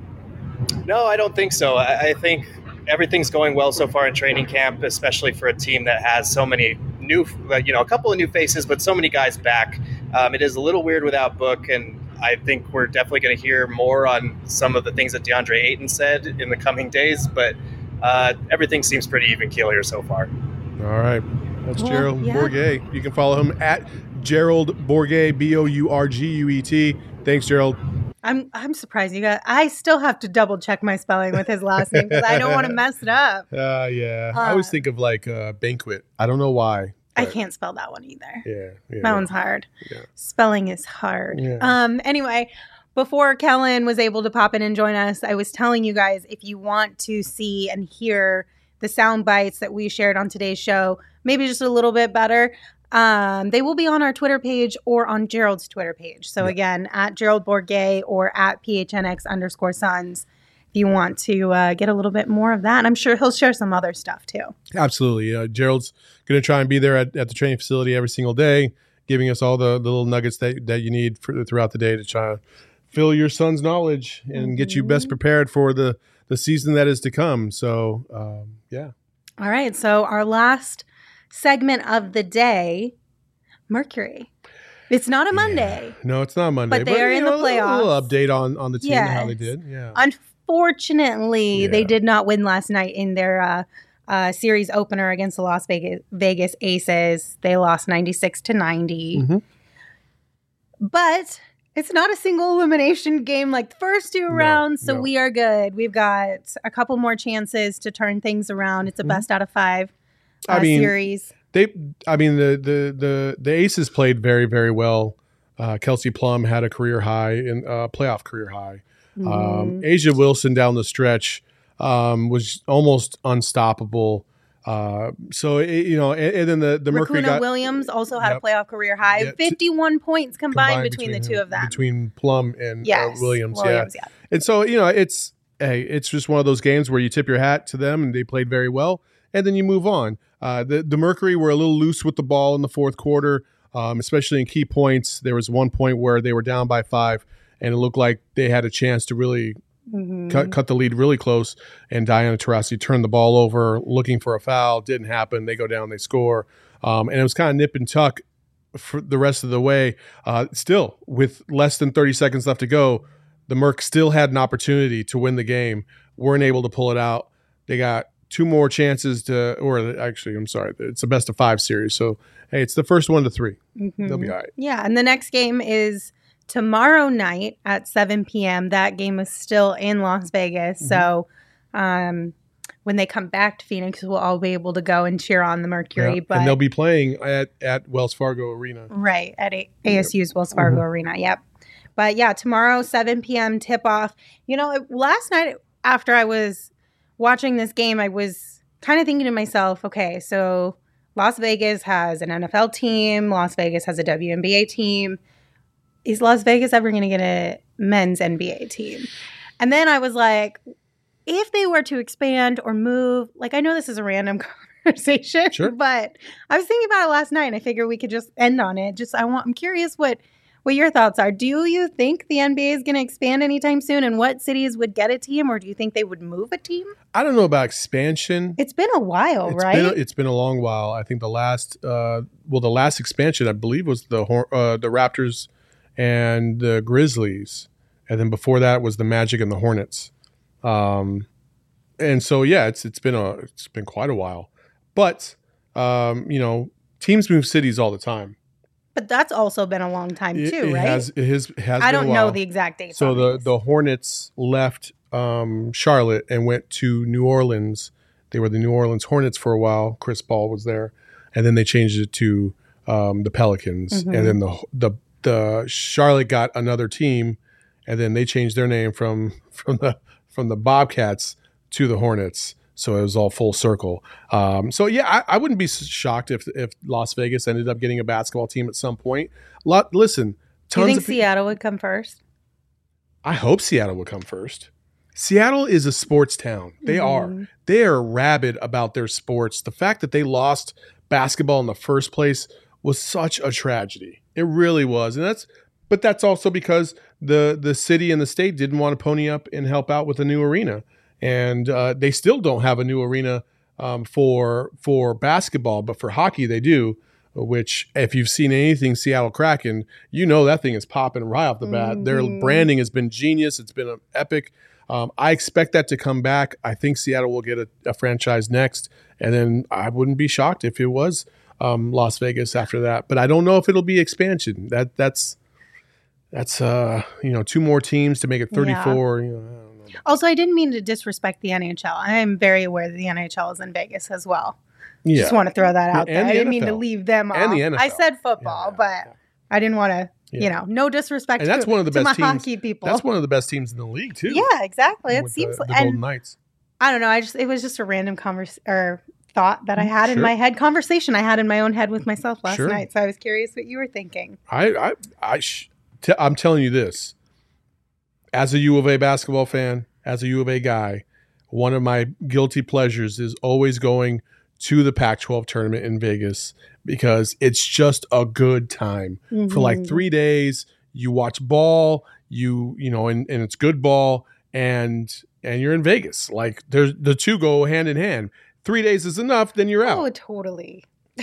No, I don't think so. I, I think everything's going well so far in training camp, especially for a team that has so many new, you know, a couple of new faces, but so many guys back. Um, it is a little weird without Book, and I think we're definitely going to hear more on some of the things that DeAndre Ayton said in the coming days, but uh, everything seems pretty even keel here so far. All right. That's Well, Gerald yeah. Bourguet. You can follow him at Gerald Bourguet, B O U R G U E T. Thanks, Gerald. I'm I'm surprised you got. I still have to double check my spelling with his last name because I don't want to mess it up. Uh, yeah. I Uh, always think of like uh, banquet. I don't know why. I but can't spell that one either. Yeah. yeah. That one's hard. Yeah. Spelling is hard. Yeah. Um. Anyway, before Kellen was able to pop in and join us, I was telling you guys if you want to see and hear the sound bites that we shared on today's show, maybe just a little bit better. Um, they will be on our Twitter page or on Gerald's Twitter page. So Yeah. again, at Gerald Bourget or at P H N X underscore Suns. If you want to uh, get a little bit more of that, and I'm sure he'll share some other stuff too. Absolutely. Uh, Gerald's going to try and be there at, at the training facility every single day, giving us all the, the little nuggets that, that you need for, throughout the day to try to fill your son's knowledge and mm-hmm. get you best prepared for the, the season that is to come. So, um, yeah. All right. So our last segment of the day, Mercury. It's not a Monday. Yeah. No, it's not a Monday. But they but, are in know, the playoffs. A little update on, on the team yes. and how they did. Yeah. Unfortunately, Yeah. they did not win last night in their uh, uh, series opener against the Las Vegas, Vegas Aces. They lost ninety-six to ninety. Mm-hmm. But it's not a single elimination game like the first two No, rounds, so no. we are good. We've got a couple more chances to turn things around. It's a Mm-hmm. best out of five uh, I mean, series. They, I mean, the the the the Aces played very, very well. Uh, Kelsey Plum had a career high in uh, playoff career high. Mm-hmm. Um, Asia Wilson down the stretch um, was almost unstoppable. Uh, so it, you know, and, and then the the Mercury Racuna got Williams also had Yep. a playoff career high. Yeah, t- fifty-one points combined, combined between, the two him- of them. between Plum and yes, uh, Williams. Williams Yeah, yeah. and so you know, it's hey, it's just one of those games where you tip your hat to them, and they played very well, and then you move on. Uh, the the Mercury were a little loose with the ball in the fourth quarter. Um, especially in key points. There was one point where they were down by five, and it looked like they had a chance to really Mm-hmm. cut, cut the lead really close. And Diana Taurasi turned the ball over, looking for a foul. Didn't happen. They go down, they score. Um, and it was kind of nip and tuck for the rest of the way. Uh, still, with less than thirty seconds left to go, the Merc still had an opportunity to win the game. Weren't able to pull it out. They got two more chances to, or actually, I'm sorry, it's a best of five series. So, hey, it's the first one to three. Mm-hmm. They'll be all right. Yeah, and the next game is tomorrow night at seven p.m. That game is still in Las Vegas. Mm-hmm. So um, when they come back to Phoenix, we'll all be able to go and cheer on the Mercury. Yeah. But And they'll be playing at, at Wells Fargo Arena. Right, at A- ASU's Wells Fargo Mm-hmm. Arena. Yep. But yeah, tomorrow, seven p.m. tip-off. You know, it- last night after I was watching this game, I was kind of thinking to myself, okay, so Las Vegas has an N F L team. Las Vegas has a W N B A team. Is Las Vegas ever going to get a men's N B A team? And then I was like, if they were to expand or move, like I know this is a random conversation, Sure. but I was thinking about it last night and I figured we could just end on it. Just I want I'm curious what what your thoughts are. Do you think the N B A is going to expand anytime soon, and what cities would get a team, or do you think they would move a team? I don't know about expansion. It's been a while, It's right? Been a, it's been a long while. I think the last, uh, well, the last expansion, I believe, was the Hor- uh, the Raptors and the Grizzlies, and then before that was the Magic and the Hornets. Um, and so yeah, it's it's been a it's been quite a while. But um, you know, teams move cities all the time. But that's also been a long time It, too, it right? has it has, it has I been a don't know while. the exact date. So the the Hornets left um, Charlotte and went to New Orleans. They were the New Orleans Hornets for a while. Chris Paul was there, and then they changed it to um, the Pelicans. Mhm. And then the the the Charlotte got another team, and then they changed their name from from the from the Bobcats to the Hornets. So it was all full circle. Um, so yeah, I, I wouldn't be shocked if if Las Vegas ended up getting a basketball team at some point. Lot, listen, Do you tons think of pe- Seattle would come first? I hope Seattle will come first. Seattle is a sports town. They Mhm. are. They are rabid about their sports. The fact that they lost basketball in the first place was such a tragedy. It really was. And that's but that's also because the the city and the state didn't want to pony up and help out with a new arena. And uh, they still don't have a new arena um, for for basketball, but for hockey they do. Which, if you've seen anything Seattle Kraken, you know that thing is popping right off the bat. Mhm. Their branding has been genius. It's been epic. Um, I expect that to come back. I think Seattle will get a, a franchise next, and then I wouldn't be shocked if it was um, Las Vegas after that. But I don't know if it'll be expansion. That that's that's uh, you know two more teams to make it thirty-four. You know, I don't know. Also, I didn't mean to disrespect the N H L. I am very aware that the N H L is in Vegas as well. Yeah, Just want to throw that out And there. the I didn't mean N F to L. leave them off. And the N F L. I said football, Yeah, yeah, but yeah. I didn't want to, Yeah. you know, no disrespect And that's to, one of the to best my teams. hockey people. That's one of the best teams in the league too. Yeah, exactly. It with seems the, the and Golden Knights. I don't know. I just it was just a random convers or thought that I had in Sure. my head, conversation I had in my own head with myself last Sure. night. So I was curious what you were thinking. I, I, I sh- t- I'm telling you this. As a U of A basketball fan, as a U of A guy, one of my guilty pleasures is always going to the Pac twelve tournament in Vegas because it's just a good time. For like three days, you watch ball, you you know, and, and it's good ball, and and you're in Vegas. Like there's the two go hand in hand. Three days is enough, then you're out. Oh, totally.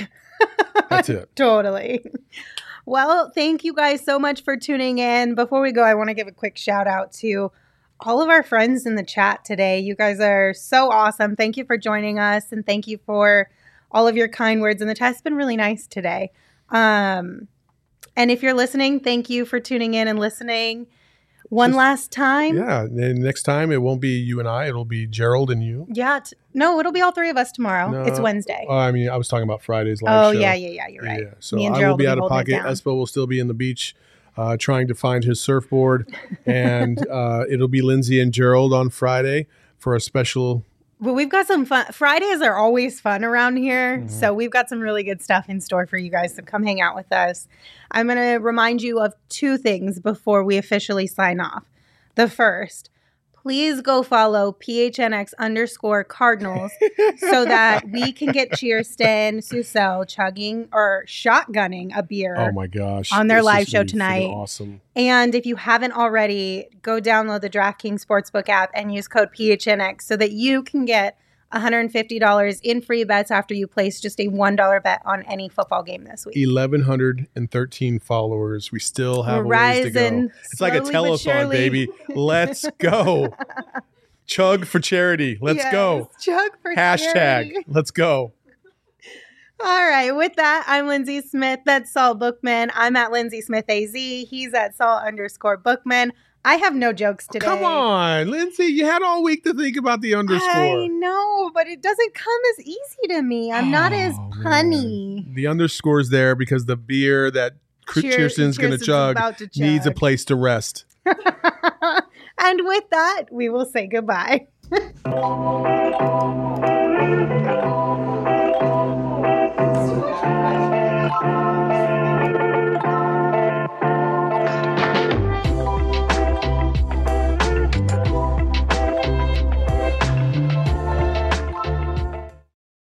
That's it. Totally. Well, thank you guys so much for tuning in. Before we go, I want to give a quick shout out to all of our friends in the chat today. You guys are so awesome. Thank you for joining us, and thank you for all of your kind words. And the chat's been really nice today. Um, and if you're listening, thank you for tuning in and listening one Just- last time. Yeah. And next time it won't be you and I. It'll be Gerald and you. Yeah. T- no, it'll be all three of us tomorrow. No. It's Wednesday. Oh, I mean, I was talking about Friday's live oh, show. yeah, yeah, yeah. You're right. Yeah. So Me and I will Gerald be will out be of holding it pocket. down. Espo will still be in the beach uh, trying to find his surfboard. And uh, it'll be Lindsay and Gerald on Friday for a special. Well, we've got some fun. Fridays are always fun around here. Mm-hmm. So we've got some really good stuff in store for you guys. So come hang out with us. I'm going to remind you of two things before we officially sign off. The first, please go follow P H N X underscore Cardinals so that we can get Cheerston Susel chugging or shotgunning a beer. Oh my gosh. On their This live is show gonna be freaking tonight. Awesome. And if you haven't already, go download the DraftKings Sportsbook app and use code P H N X so that you can get one hundred fifty dollars in free bets after you place just a one dollar bet on any football game this week. eleven thirteen followers. We still have We're a ways to go. rising It's like a slowly but telethon, surely. baby. Let's go. Chug for charity. Let's Yes, go. Chug for Hashtag. charity. Let's go. All right. With that, I'm Lindsay Smith. That's Saul Bookman. I'm at Lindsay Smith A Z. He's at Saul underscore Bookman. I have no jokes today. Come on, Lindsay. You had all week to think about the underscore. I know, but it doesn't come as easy to me. I'm not as Oh, punny. The underscore's there because the beer that Cr- Cheer- Cheerston's going to Cheerston's chug about to needs a chug. place to rest. And with that, we will say goodbye.